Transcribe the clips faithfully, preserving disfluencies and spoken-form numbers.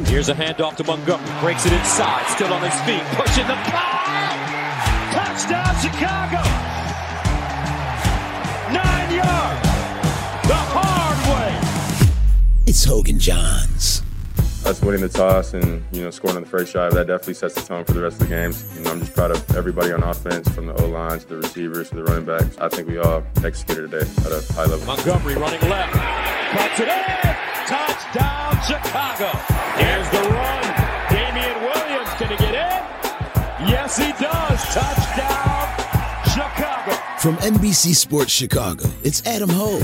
Here's a handoff to Montgomery. Breaks it inside. Still on his feet. Pushing the pile. Touchdown, Chicago. Nine yards. The hard way. It's Hogan Johns. Us winning the toss and, you know, scoring on the first drive, that definitely sets the tone for the rest of the games. You know, I'm just proud of everybody on offense, from the O-line to the receivers to the running backs. I think we all executed today at a high level. Montgomery running left. Cuts it in. Touchdown, Chicago. Here's the run. Damian Williams, can he get in? Yes, he does. Touchdown, Chicago. From N B C Sports Chicago, it's Adam Hogue.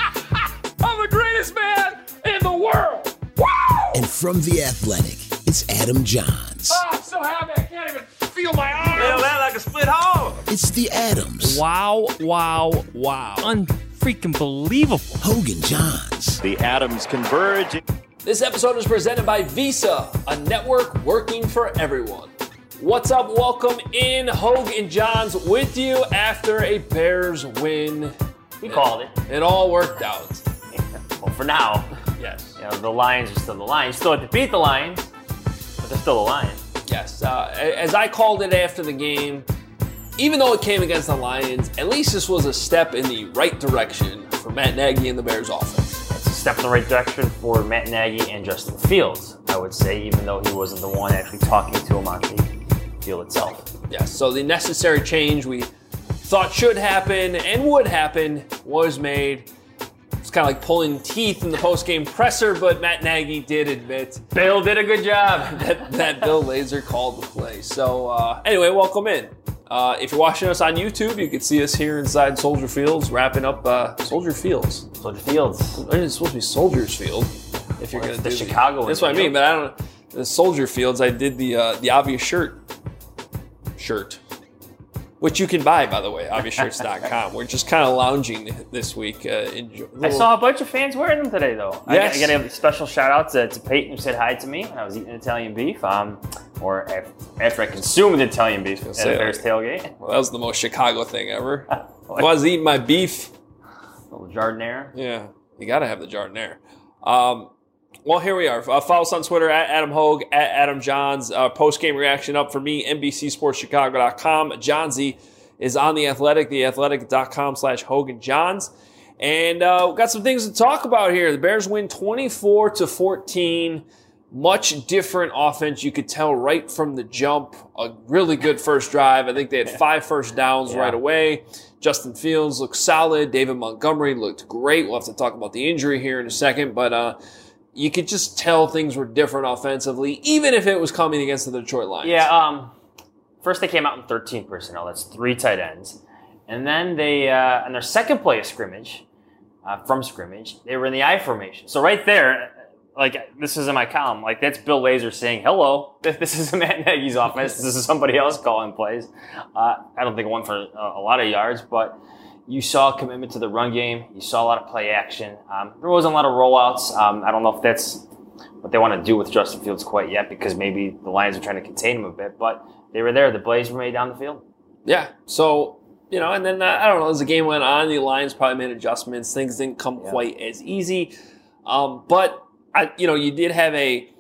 I'm the greatest man in the world. Woo! And from The Athletic, it's Adam Johns. Oh, I'm so happy I can't even feel my arms. Feel that like a split hole. It's the Adams. Wow, wow, wow. Unfreaking believable. Hogan Johns. The Adams converge. This episode is presented by Visa, a network working for everyone. What's up? Welcome in. Hogue and Johns with you after a Bears win. We called it. It all worked out. Well, for now. Yes. You know, the Lions are still the Lions. Still have to beat the Lions, but they're still the Lions. Yes. Uh, as I called it after the game, even though it came against the Lions, at least this was a step in the right direction for Matt Nagy and the Bears offense. It's a step in the right direction for Matt Nagy and Justin Fields, I would say, even though he wasn't the one actually talking to him on the field itself. Yes. So the necessary change we thought should happen and would happen was made. It's kind of like pulling teeth in the post-game presser, but Matt Nagy did admit Bill did a good job. that, that Bill Lazor called the play. So uh, anyway, welcome in. Uh, if you're watching us on YouTube, you can see us here inside Soldier Fields, wrapping up uh, Soldier Fields. Soldier Fields. It's supposed to be Soldiers Field. If you're Well, going to the do Chicago. the, that's what I mean. But I don't. The Soldier Fields. I did the uh, the obvious shirt. Shirt. Which you can buy, by the way, obvious shirts dot com. We're just kind of lounging this week. Uh, enjoy, little... I saw a bunch of fans wearing them today, though. Yes. I, I got to give a special shout out to, to Peyton, who said hi to me when I was eating Italian beef, um, or after, after I consumed Italian beef at the Bears tailgate. Well, that was the most Chicago thing ever. I was eating my beef. A little Jardinere. Yeah, you got to have the Jardinere. Um, well, here we are. Uh, follow us on Twitter at Adam Hogue, at Adam Johns. Uh, post-game reaction up for me, N B C Sports Chicago dot com. Johnsy is on The Athletic, the athletic dot com slash Hogan Johns. And uh, we've got some things to talk about here. The Bears win twenty-four to fourteen. Much different offense. You could tell right from the jump. A really good first drive. I think they had five first downs yeah. right away. Justin Fields looked solid. David Montgomery looked great. We'll have to talk about the injury here in a second. But uh, you could just tell things were different offensively, even if it was coming against the Detroit Lions. Yeah, um... First, they came out in thirteen personnel. That's three tight ends. And then they, uh, on their second play of scrimmage, uh, from scrimmage, they were in the I formation. So right there, like, this is in my column. Like, that's Bill Lazor saying, hello, this is Matt Nagy's offense. This is somebody else calling plays. Uh, I don't think it went for a, a lot of yards, but you saw a commitment to the run game. You saw a lot of play action. Um, there wasn't a lot of rollouts. Um, I don't know if that's what they want to do with Justin Fields quite yet, because maybe the Lions are trying to contain him a bit, but they were there. The plays were made down the field. Yeah. So, you know, and then, uh, I don't know, as the game went on, the Lions probably made adjustments. Things didn't come yeah. quite as easy. Um, but, I, you know, you did have a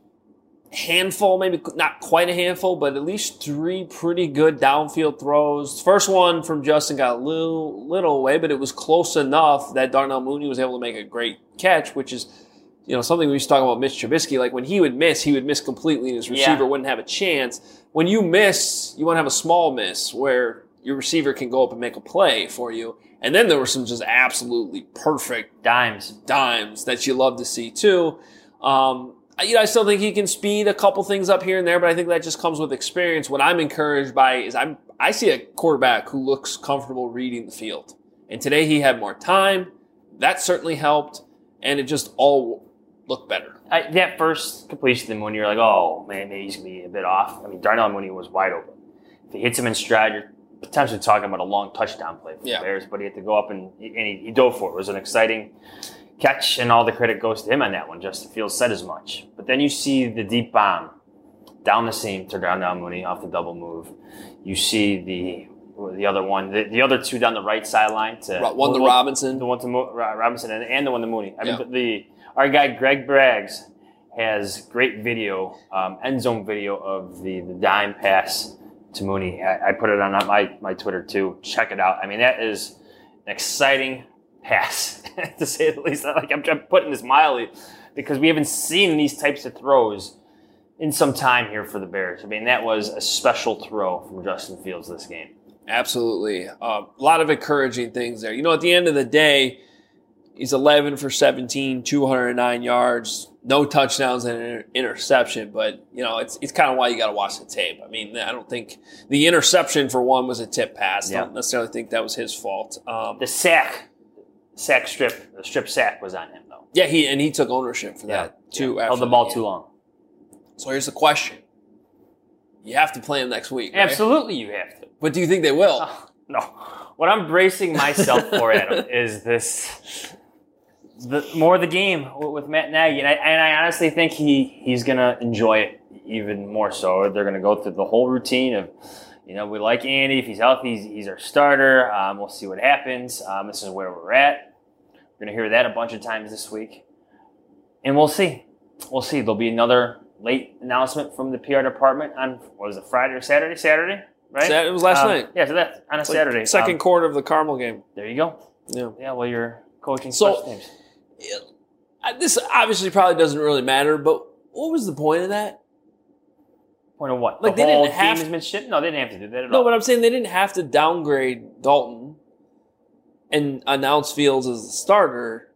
handful, maybe not quite a handful, but at least three pretty good downfield throws. First one from Justin got a little, little away, but it was close enough that Darnell Mooney was able to make a great catch, which is, you know, something we used to talk about Mitch Trubisky. Like, when he would miss, he would miss completely, and his receiver yeah. wouldn't have a chance. When you miss, you want to have a small miss where your receiver can go up and make a play for you. And then there were some just absolutely perfect dimes, dimes that you love to see too. Um, you know, I still think he can speed a couple things up here and there, but I think that just comes with experience. What I'm encouraged by is I'm I see a quarterback who looks comfortable reading the field. And today he had more time. That certainly helped, and it just all looked better. I, that first completion, when you're like, oh, man, maybe he's going to be a bit off. I mean, Darnell Mooney was wide open. If he hits him in stride, you're potentially talking about a long touchdown play for yeah. the Bears, but he had to go up and, and he, he dove for it. It was an exciting catch, and all the credit goes to him on that one. Justin Fields said as much. But then you see the deep bomb down the seam to Darnell Mooney off the double move. You see the the other one, the, the other two down the right sideline. To one to Robinson. The one to Mo, Robinson and, and the one to Mooney. I yeah. mean, the our guy Greg Braggs has great video, um, end zone video of the, the dime pass to Mooney. I, I put it on my, my Twitter too. Check it out. I mean, that is an exciting pass, to say the least. Like I'm, I'm putting this mildly because we haven't seen these types of throws in some time here for the Bears. I mean, that was a special throw from Justin Fields this game. Absolutely. Uh, a lot of encouraging things there. You know, at the end of the day, he's eleven for seventeen, two hundred nine yards, no touchdowns and an interception. But, you know, it's it's kind of why you got to watch the tape. I mean, I don't think the interception, for one, was a tip pass. I Yeah. don't necessarily think that was his fault. Um, The sack, sack strip, the strip sack was on him, though. yeah, he and he took ownership for that, too. Yeah. after Held the ball game. too long. So here's the question. You have to play him next week, right? Absolutely, you have to. But do you think they will? Oh, no. What I'm bracing myself for, Adam, is this the more the game with Matt Nagy. And I, and I honestly think he, he's going to enjoy it even more so. They're going to go through the whole routine of, you know, we like Andy. If he's healthy, he's, he's our starter. Um, we'll see what happens. Um, this is where we're at. We're going to hear that a bunch of times this week. And we'll see. We'll see. There'll be another late announcement from the P R department on, what was it, Friday or Saturday? Saturday, right? Sat- it was last Um, night. Yeah, so that's on a It's like Saturday. Second Um, quarter of the Carmel game. there you go. Yeah. Yeah, well, you're coaching So- special teams. Uh, This obviously probably doesn't really matter, but what was the point of that? Point of what? Like, the they whole didn't have- gamesmanship? No, they didn't have to do that at No, all. but I'm saying they didn't have to downgrade Dalton and announce Fields as the starter.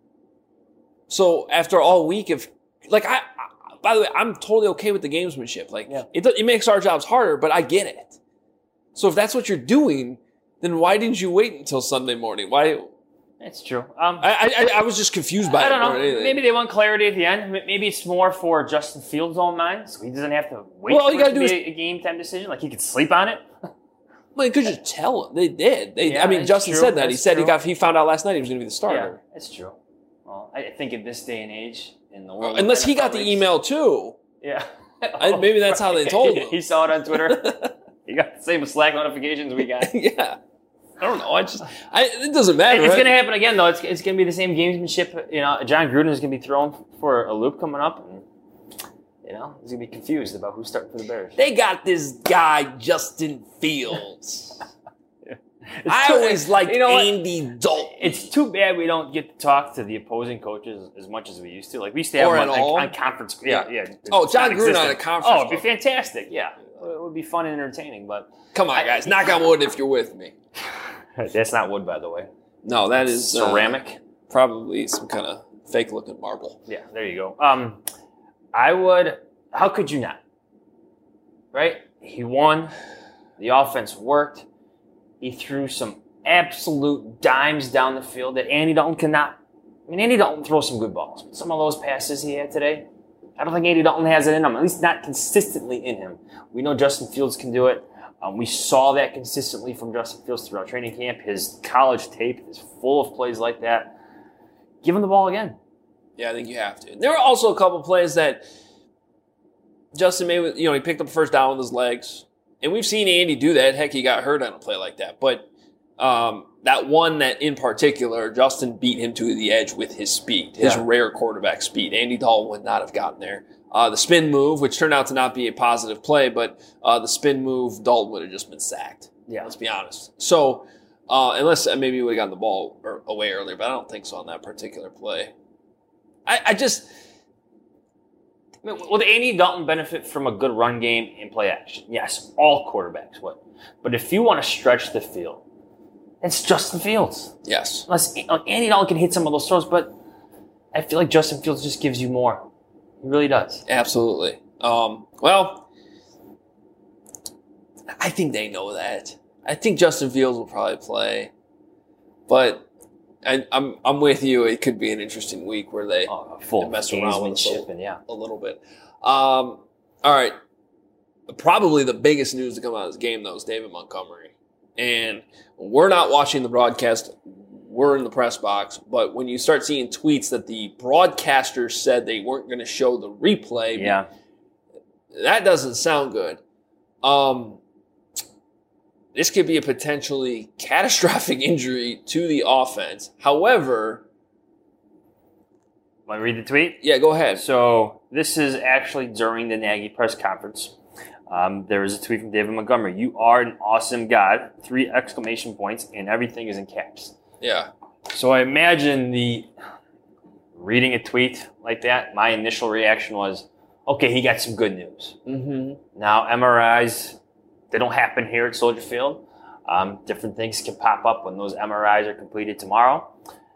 So after all week of, like, I, I by the way, I'm totally okay with the gamesmanship. Like, Yeah. it, it makes our jobs harder, but I get it. So if that's what you're doing, then why didn't you wait until Sunday morning? Why? It's true. Um, I I, I was just confused by I it don't more know. than anything. Maybe they want clarity at the end. M- Maybe it's more for Justin Fields' own mind, so he doesn't have to wait Well, all for you it gotta to do be is- a, a game time decision. Like he could sleep on it. Well, you could just tell them. They did. They, Yeah, I mean, it's Justin true. said that. He That's said he true. got. He found out last night he was going to be the Yeah, starter. it's true. Well, I think in this day and age, in the world, of Unless he N F L got the leagues- email too. Yeah. I- maybe that's how they told him. He saw it on Twitter. He got the same Slack notifications we got. Yeah. I don't know. I just. I, it doesn't matter. It's right? going to happen again, though. It's, it's going to be the same gamesmanship. You know, John Gruden is going to be thrown for a loop coming up, and you know he's going to be confused about who's starting for the Bears. They got this guy Justin Fields. It's I too- always liked you know what? Andy Dalton. It's too bad we don't get to talk to the opposing coaches as much as we used to. Like we used to have Or them at on, all. on conference. Yeah, yeah. Oh, It's John Gruden on a non-existent. conference Oh, it'd be call. fantastic. Yeah, it would be fun and entertaining. But Come on, guys. Knock on wood if you're with me. that's not wood, by the way. No, that is uh, Ceramic. probably some kind of fake-looking marble. Yeah, there you go. Um, I would. How could you not? Right? He won. The offense worked. He threw some absolute dimes down the field that Andy Dalton cannot. I mean, Andy Dalton throws some good balls. But some of those passes he had today, I don't think Andy Dalton has it in him. At least not consistently in him. We know Justin Fields can do it. Um, we saw that consistently from Justin Fields throughout training camp. His college tape is full of plays like that. Give him the ball again. Yeah, I think you have to. There were also a couple plays that Justin made. You know, he picked up a first down with his legs, and we've seen Andy do that. Heck, he got hurt on a play like that. But um, that one that in particular, Justin beat him to the edge with his speed, his Yeah. rare quarterback speed. Andy Dalton would not have gotten there. Uh, the spin move, which turned out to not be a positive play, but uh, the spin move, Dalton would have just been sacked. Yeah. Let's be honest. So, uh, unless uh, maybe he would have gotten the ball or, away earlier, but I don't think so on that particular play. I, I just. I mean, will Andy Dalton benefit from a good run game and play action? Yes, all quarterbacks would. But if you want to stretch the field, it's Justin Fields. Yes. Unless like, Andy Dalton can hit some of those throws, but I feel like Justin Fields just gives you more. He really does. Absolutely. Um, well, I think they know that. I think Justin Fields will probably play, but I, I'm I'm with you. It could be an interesting week where they Oh, full They mess around with us a gamesmanship and yeah. a little bit. Um, all right. Probably the biggest news to come out of this game, though, is David Montgomery. And we're not watching the broadcast. We're in the press box. But when you start seeing tweets that the broadcasters said they weren't going to show the replay, Yeah. that doesn't sound good. Um, this could be a potentially catastrophic injury to the offense. However, Want to read the tweet? Yeah, go ahead. So this is actually during the Nagy press conference. Um, there was a tweet from David Montgomery. You are an awesome God. Three exclamation points, and everything is in caps. Yeah. So I imagine the reading a tweet like that, my initial reaction was, okay, he got some good news. Mm-hmm. Now, M R Is, they don't happen here at Soldier Field. Um, different things can pop up when those M R Is are completed tomorrow.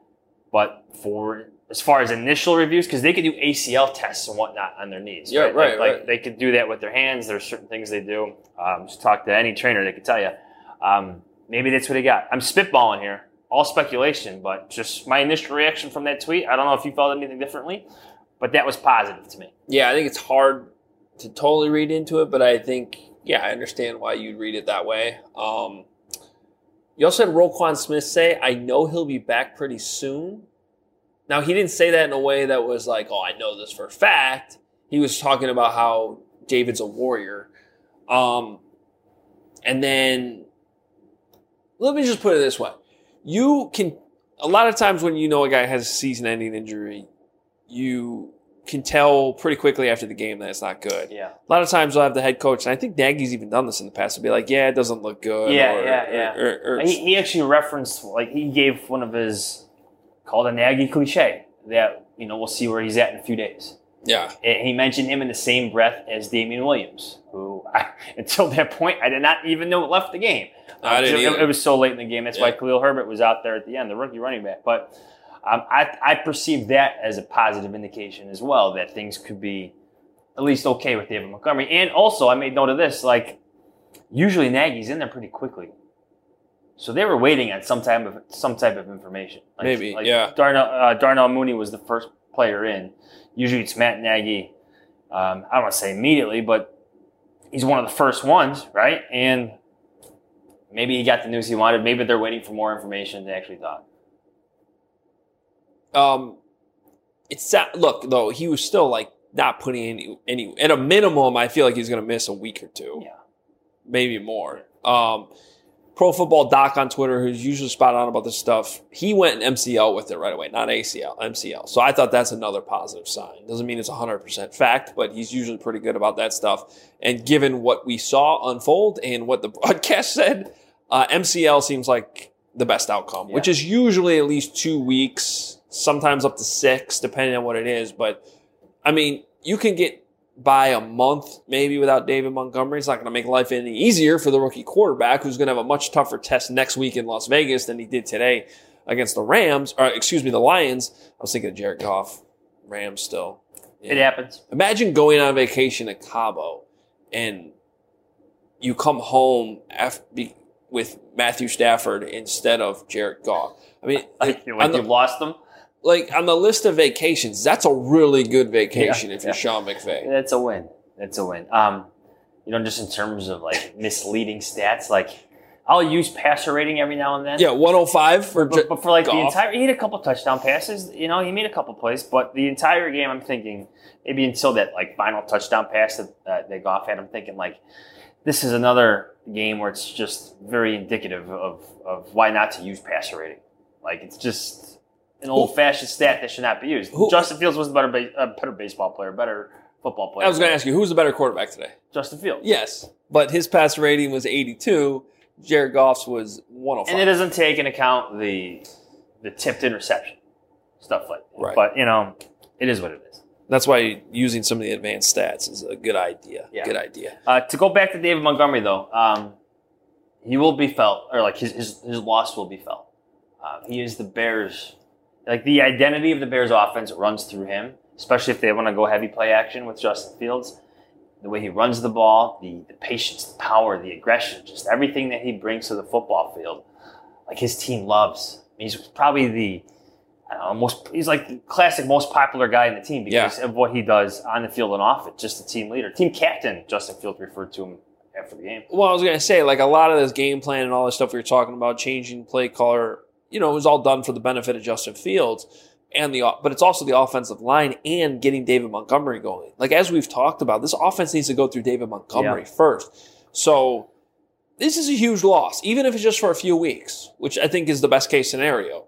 But for as far as initial reviews, because they could do A C L tests and whatnot on their knees. Yeah, right. right, Like, right. like they could do that with their hands. There's certain things they do. Um, just talk to any trainer, they could tell you. Um, maybe that's what he got. I'm spitballing here. All speculation, but just my initial reaction from that tweet. I don't know if you felt anything differently, but that was positive to me. Yeah, I think it's hard to totally read into it, but I think, yeah, I understand why you'd read it that way. Um, you also had Roquan Smith say, I know he'll be back pretty soon. Now, he didn't say that in a way that was like, oh, I know this for a fact. He was talking about how David's a warrior. Um, and then, let me just put it this way. You can, a lot of times when you know a guy has a season-ending injury, you can tell pretty quickly after the game that it's not good. Yeah. A lot of times you'll have the head coach, and I think Nagy's even done this in the past, to be like, yeah, it doesn't look good. Yeah, or, yeah, yeah. Or, or, or, He, he actually referenced, like, he gave one of his, called a Nagy cliche, that, you know, we'll see where he's at in a few days. yeah. And he mentioned him in the same breath as Damian Williams, who, I, until that point, I did not even know left the game. I Um, didn't it, either. it was so late in the game. That's Yeah. why Khalil Herbert was out there at the end, the rookie running back. But um, I, I perceive that as a positive indication as well, that things could be at least okay with David Montgomery. And also, I made note of this, like, usually Nagy's in there pretty quickly. So they were waiting on some type of some type of information. Like, Maybe, like yeah. Darnell, uh, Darnell Mooney was the first player in. Usually it's Matt Nagy. Um, I don't want to say immediately, but he's one of the first ones, right? And maybe he got the news he wanted. Maybe they're waiting for more information than they actually thought. Um, it's look though he was still like not putting any any at a minimum. I feel like he's going to miss a week or two, Yeah. maybe more. Um, Pro Football Doc on Twitter, who's usually spot on about this stuff, he went in M C L with it right away, not A C L, M C L. So I thought that's another positive sign. Doesn't mean it's one hundred percent fact, but he's usually pretty good about that stuff. And given what we saw unfold and what the broadcast said, uh, M C L seems like the best outcome, Yeah. which is usually at least two weeks, sometimes up to six, depending on what it is. But, I mean, you can get by a month maybe without David Montgomery. It's not going to make life any easier for the rookie quarterback, who's going to have a much tougher test next week in Las Vegas than he did today against the Rams, or excuse me, the Lions. I was thinking of Jared Goff, Rams still. It happens. Imagine going on vacation at Cabo and you come home after, be, with Matthew Stafford instead of Jared Goff. I mean, Like, on like the- you've lost them. like on the list of vacations, that's a really good vacation Yeah, if you're yeah. Sean McVay. That's a win. That's a win. Um, you know, just in terms of like misleading stats, like I'll use passer rating every now and then. Yeah, one oh five for But, but for like the Goff. entire, he had a couple touchdown passes. You know, he made a couple plays, but the entire game, I'm thinking maybe until that like final touchdown pass that uh, that Goff had, I'm thinking like this is another game where it's just very indicative of of why not to use passer rating. Like it's just an old-fashioned stat that should not be used. Who- Justin Fields was a better, ba- a better baseball player, better football player. I was going to ask you, who's the better quarterback today? Justin Fields. Yes, but his pass rating was eighty-two. Jared Goff's was one oh five. And it doesn't take into account the the tipped interception, stuff like that. Right. But, you know, it is what it is. That's why using some of the advanced stats is a good idea. Yeah. Good idea. Uh, to go back to David Montgomery, though, um, he will be felt, or like his, his, his loss will be felt. Uh, he is the Bears. Like the identity of the Bears offense runs through him, especially if they want to go heavy play action with Justin Fields. The way he runs the ball, the, the patience, the power, the aggression, just everything that he brings to the football field. Like his team loves. He's probably the, I don't know, most, he's like the classic most popular guy in the team because Yeah. of what he does on the field and off it. Just a team leader. Team captain, Justin Fields referred to him after the game. Well, I was going to say, like a lot of this game plan and all this stuff we were talking about, changing play color, you know, it was all done for the benefit of Justin Fields, and the but it's also the offensive line and getting David Montgomery going. Like as we've talked about, this offense needs to go through David Montgomery Yeah. first. So this is a huge loss, even if it's just for a few weeks, which I think is the best case scenario.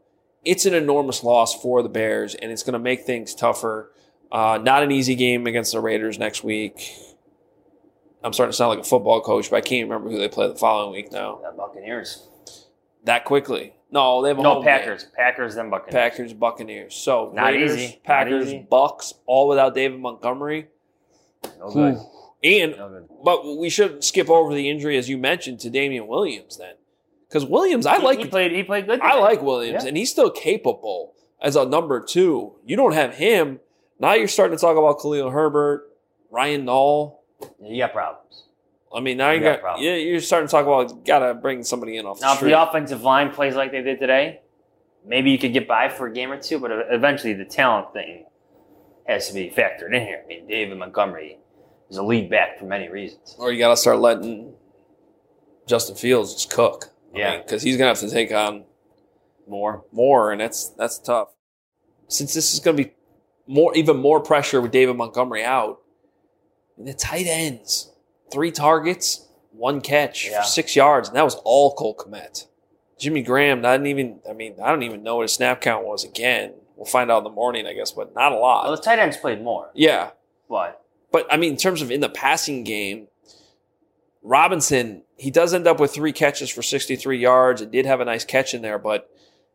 it's an enormous loss for the Bears, and it's going to make things tougher. Uh, not an easy game against the Raiders next week. I'm starting to sound like a football coach, but I can't remember who they play the following week now. The Buccaneers. That quickly. No, they have a No, home Packers. game. Packers, then Buccaneers. Packers, Buccaneers. So Not Raiders, easy. Not Packers, easy. Bucks, all without David Montgomery. No good. And No good. but we shouldn't skip over the injury, as you mentioned, to Damian Williams then. Because Williams, I He- like He played, he played good. I today. like Williams, Yeah. and he's still capable as a number two. You don't have him. Now you're starting to talk about Khalil Herbert, Ryan Nall. You got problems. I mean, now you, You got got, problems. yeah, you're starting to talk about got to bring somebody in off the Now, if street. the offensive line plays like they did today, maybe you could get by for a game or two, but eventually the talent thing has to be factored in here. I mean, David Montgomery is a lead back for many reasons. Or you got to start letting Justin Fields just cook. Yeah. Because he's going to have to take on More. more, and that's that's tough. Since this is going to be more, even more pressure with David Montgomery out, and the tight ends, three targets, one catch Yeah. for six yards, and that was all Cole Kmet. Jimmy Graham, I didn't even, I mean, I don't even know what his snap count was again. We'll find out in the morning, I guess, but not a lot. Well, the tight ends played more, Yeah. but But, I mean, in terms of in the passing game, Robinson, he does end up with three catches for sixty-three yards. It did have a nice catch in there, but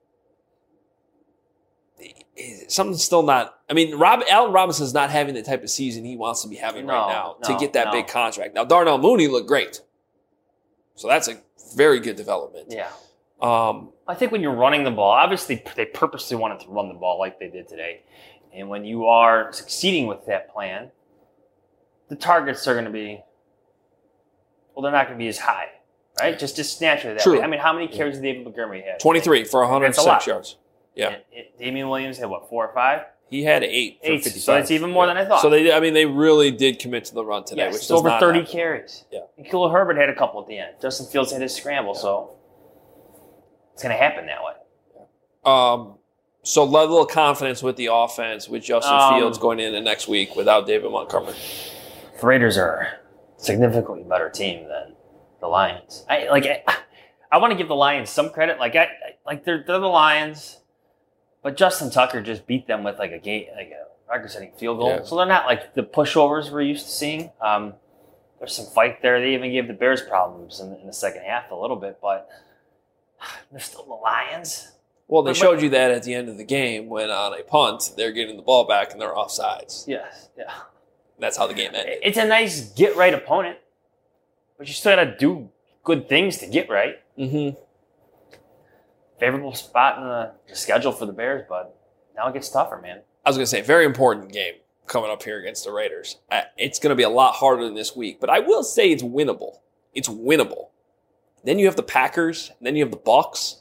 something's still not. I mean, Rob Allen Robinson's not having the type of season he wants to be having No, right now to no, get that no. big contract. Now, Darnell Mooney looked great. So that's a very good development. yeah. Um, I think when you're running the ball, obviously they purposely wanted to run the ball like they did today. And when you are succeeding with that plan, the targets are going to be, well, they're not going to be as high, right? Just just naturally that True. way. I mean, how many carries did David Montgomery have? twenty-three for one hundred That's a lot. six yards. Yeah. And it, Damian Williams had, what, four or five? He had eight for Eight. fifty-five. So it's even more than I thought. So they, I mean, they really did commit to the run today, Yes, which it's does over not thirty happen. carries. Yeah. And Khalil Herbert had a couple at the end. Justin Fields had his scramble, so it's going to happen that way. Um, so level of confidence with the offense with Justin Um, Fields going into next week without David Montgomery. The Raiders are a significantly better team than the Lions. I like. I, I want to give the Lions some credit. Like I, I like they're they're the Lions, but Justin Tucker just beat them with like a game, like a record-setting field goal. Yeah. So they're not like the pushovers we're used to seeing. Um, there's some fight there. They even gave the Bears problems in, in the second half a little bit, but they're still the Lions. Well, they But- showed you that at the end of the game when on a punt, they're getting the ball back and they're offsides. Yes, yeah. That's how the game ended. It's a nice get right opponent, but you still got to do good things to get right. Mm-hmm. Favorable spot in the, the schedule for the Bears, but now it gets tougher, man. I was going to say, very important game coming up here against the Raiders. Uh, It's going to be a lot harder than this week, but I will say it's winnable. It's winnable. Then you have the Packers, and then you have the Bucks.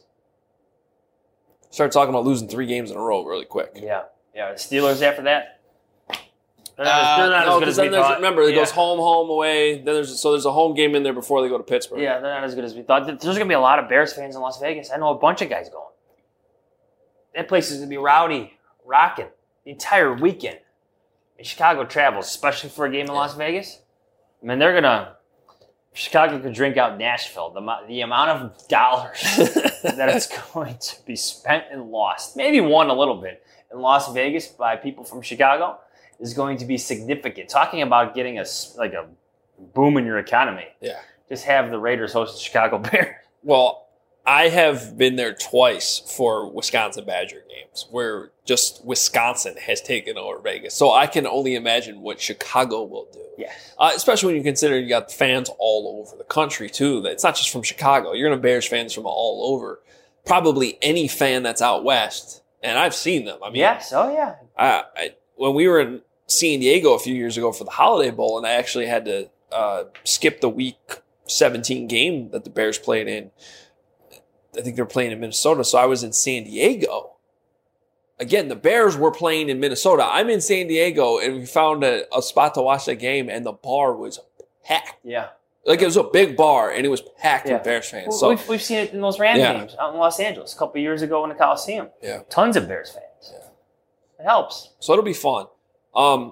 Start talking about losing three games in a row really quick. Yeah, yeah. The Steelers after that, they're not, Uh, as, they're not no, as good 'cause as we then there's- thought. remember, it yeah. goes home, home, away. Then there's so there's a home game in there before they go to Pittsburgh. Yeah, they're not as good as we thought. There's going to be a lot of Bears fans in Las Vegas. I know a bunch of guys going. That place is going to be rowdy, rocking the entire weekend. And Chicago travels, especially for a game in Las Vegas. I mean, they're going to. Chicago could drink out Nashville. The, mo- the amount of dollars that it's going to be spent and lost, maybe won a little bit in Las Vegas by people from Chicago, is going to be significant. Talking about getting a s- like a boom in your economy. Yeah. Just have the Raiders host the Chicago Bears. Well, I have been there twice for Wisconsin Badger games where just Wisconsin has taken over Vegas. So I can only imagine what Chicago will do. Yes. Uh, especially when you consider you got fans all over the country, too. It's not just from Chicago. You're going to have Bears fans from all over. Probably any fan that's out west. And I've seen them. I mean, Yes. Oh, yeah. I, I, when we were in San Diego a few years ago for the Holiday Bowl, and I actually had to uh, skip the week seventeen game that the Bears played in, I think they were playing in Minnesota, so I was in San Diego. Again, the Bears were playing in Minnesota. I'm in San Diego, and we found a, a spot to watch that game, and the bar was packed. Yeah. Like, it was a big bar, and it was packed Yeah. with Bears fans. Well, So, we've, we've seen it in those Rams Yeah. games out in Los Angeles a couple of years ago in the Coliseum. Yeah. Tons of Bears fans. Yeah. It helps. so it'll be fun. Um,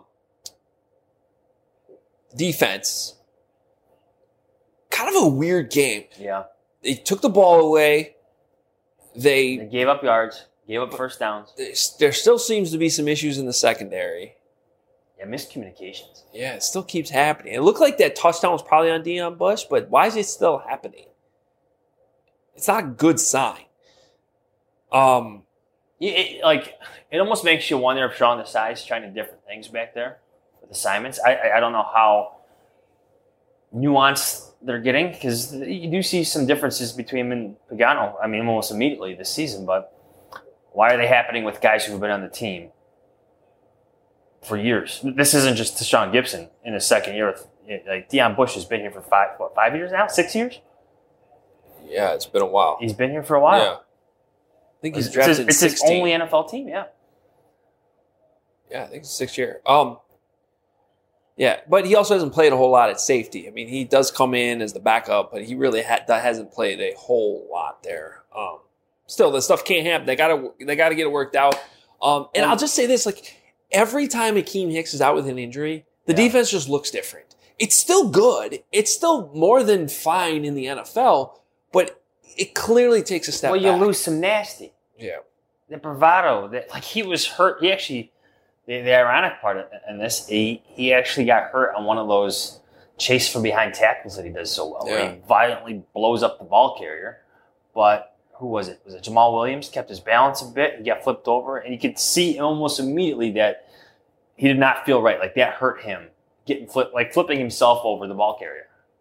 defense. Kind of a weird game. Yeah. They took the ball away. They They gave up yards. Gave up first downs. There still seems to be some issues in the secondary. Yeah, miscommunications. Yeah, it still keeps happening. It looked like that touchdown was probably on Deion Bush, but why is it still happening? It's not a good sign. Um, it, it, like it almost makes you wonder if Sean Desai's trying to different things back there with assignments. I I, I don't know how nuanced they're getting, because you do see some differences between him and Pagano. I mean, almost immediately this season. But why are they happening with guys who've been on the team for years? This isn't just Tashaun Gibson in his second year. Like Deion Bush has been here for five, what, five years now, six years. Yeah, it's been a while. He's been here for a while. Yeah. I think he's It's drafted his, in it's his sixteen. only N F L team, yeah. Yeah, I think it's six year. Um, yeah, but he also hasn't played a whole lot at safety. I mean, he does come in as the backup, but he really ha- hasn't played a whole lot there. Um, still, this stuff can't happen. They gotta they gotta get it worked out. Um, and I'll just say this: like every time Akeem Hicks is out with an injury, the Yeah. defense just looks different. It's still good. It's still more than fine in the N F L, but it clearly takes a step Well, back. you lose some nasty. Yeah. The bravado that, like, he was hurt. He actually, the, the ironic part in this, he he actually got hurt on one of those chase from behind tackles that he does so well, where Yeah. he violently blows up the ball carrier. But who was it? Was it Jamal Williams? Kept his balance a bit. He got flipped over, and you could see almost immediately that he did not feel right. Like that hurt him, getting flipped, like flipping himself over the ball carrier.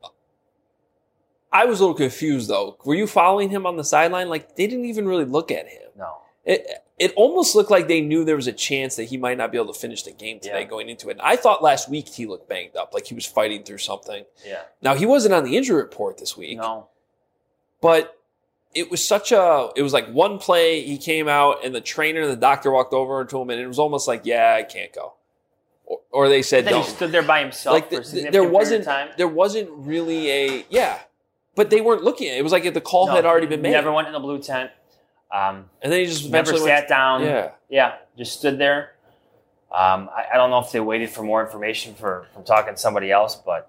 I was a little confused though. Were you following him on the sideline? Like they didn't even really look at him. No. It it almost looked like they knew there was a chance that he might not be able to finish the game today Yeah. going into it. And I thought last week he looked banged up, like he was fighting through something. Yeah. Now he wasn't on the injury report this week, No. but it was such a it was like one play he came out and the trainer and the doctor walked over to him and it was almost like, yeah, I can't go. Or, or they said Then no. he stood there by himself Like for the, a the- significant there period wasn't of time. there wasn't really a yeah. But they weren't looking at it. It was like the call No, had already been he made. Never went in the blue tent. Um, and then he just never eventually sat went, down. Yeah. Yeah, just stood there. Um, I, I don't know if they waited for more information for from talking to somebody else, but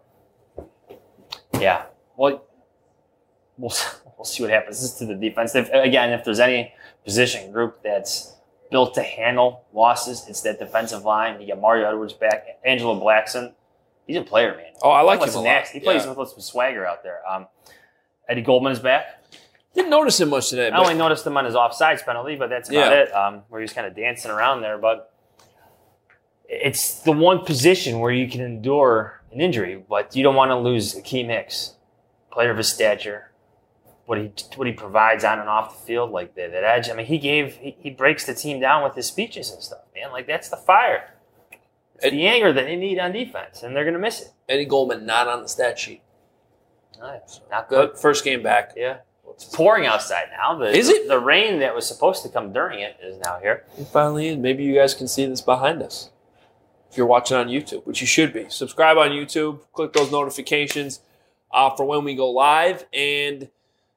yeah. Well, we'll we'll see what happens. This is to the defense. If, again, if there's any position group that's built to handle losses, it's that defensive line. You got Mario Edwards back, Angelo Blackson. He's a player, man. Oh, I like Plus him a lot. nasty. He plays Yeah. with some swagger out there. Um, Eddie Goldman is back. Didn't notice him much today. I But only noticed him on his offsides penalty, but that's about Yeah. it. Um, where he was kind of dancing around there, but it's the one position where you can endure an injury, but you don't want to lose Akeem Hicks, player of his stature, what he what he provides on and off the field, like that, that edge. I mean, he gave he, he breaks the team down with his speeches and stuff, man. Like that's the fire, it's Ed- the anger that they need on defense, and they're gonna miss it. Eddie Goldman not on the stat sheet. Nice. Not good. But first game back. Yeah. It's pouring outside now. The, Is it? The rain that was supposed to come during it is now here. It finally in. Maybe you guys can see this behind us. If you're watching on YouTube, which you should be. Subscribe on YouTube. Click those notifications uh, for when we go live. And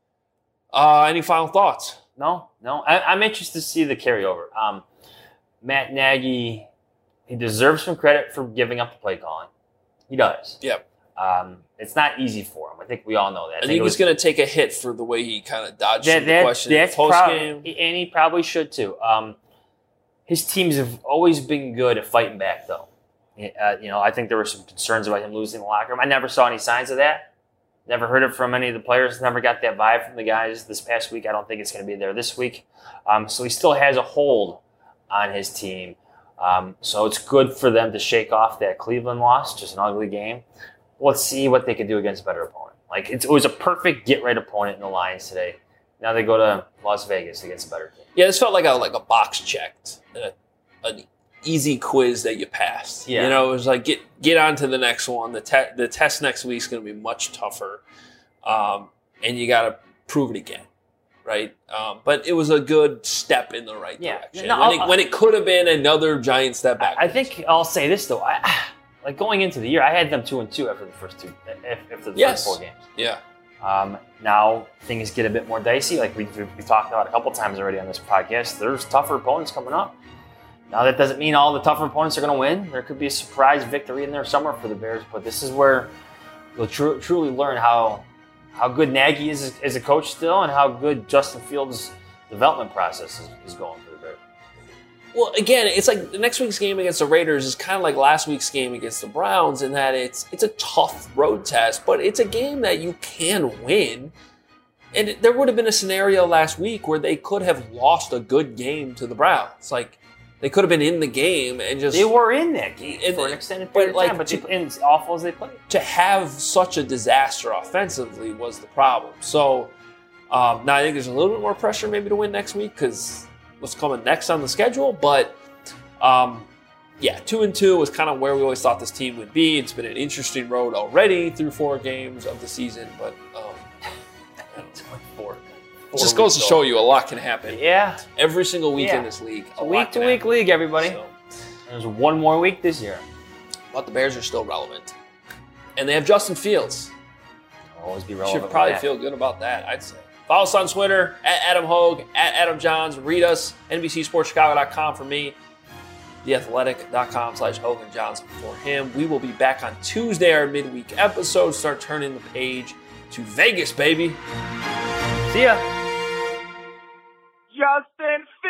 uh, any final thoughts? No, no. I, I'm interested to see the carryover. Um, Matt Nagy, he deserves some credit for giving up the play calling. He does. Yep. Um, it's not easy for him. I think we all know that. I think it he's going to take a hit for the way he kind of dodged that, some that, questions that's post prob- game. and he probably should too. Um, his teams have always been good at fighting back, though. Uh, you know, I think there were some concerns about him losing the locker room. I never saw any signs of that. Never heard it from any of the players. Never got that vibe from the guys this past week. I don't think it's going to be there this week. Um, so he still has a hold on his team. Um, so it's good for them to shake off that Cleveland loss, just an ugly game. Let's see what they can do against a better opponent. Like it's, it was a perfect get-right opponent in the Lions today. Now they go to Las Vegas against a better team. Yeah, this felt like a like a box checked, a, an easy quiz that you passed. Yeah. You know, it was like get get on to the next one. The te- the test next week is going to be much tougher, um, and you got to prove it again, right? Um, but it was a good step in the right Yeah. direction No, when, it, I'll- when it could have been another giant step back. I think I'll say this though. I, like going into the year, I had them two and two after the first two, after the Yes. first four games. yeah. Um, now things get a bit more dicey. Like we we we talked about a couple times already on this podcast. There's tougher opponents coming up. Now that doesn't mean all the tougher opponents are going to win. There could be a surprise victory in there somewhere for the Bears. But this is where you'll tru- truly learn how how good Nagy is as a coach still, and how good Justin Fields' development process is, is going for the Well, again, it's like the next week's game against the Raiders is kind of like last week's game against the Browns in that it's it's a tough road test, but it's a game that you can win. And there would have been a scenario last week where they could have lost a good game to the Browns. Like, they could have been in the game and just... They were in that game and, for an extended period but of time, like, but to, they, and as awful as they played. To have such a disaster offensively was the problem. So, um, now I think there's a little bit more pressure maybe to win next week because what's coming next on the schedule. But, um, yeah, two and two was kind of where we always thought this team would be. It's been an interesting road already through four games of the season, but... Um, Four. It just goes to show you a lot can happen. Yeah. Every single week Yeah. in this league. It's a week-to-week league, everybody. So, There's one more week this year. but the Bears are still relevant. And they have Justin Fields. Always be You relevant. should probably with that. feel good about that, I'd say. Follow us on Twitter, at Adam Hogue, at Adam Johns. Read us, N B C Sports Chicago dot com for me, the athletic dot com slash Hogue and Johns for him. We will be back on Tuesday, our midweek episode. Start turning the page to Vegas, baby. See ya. Justin Fields.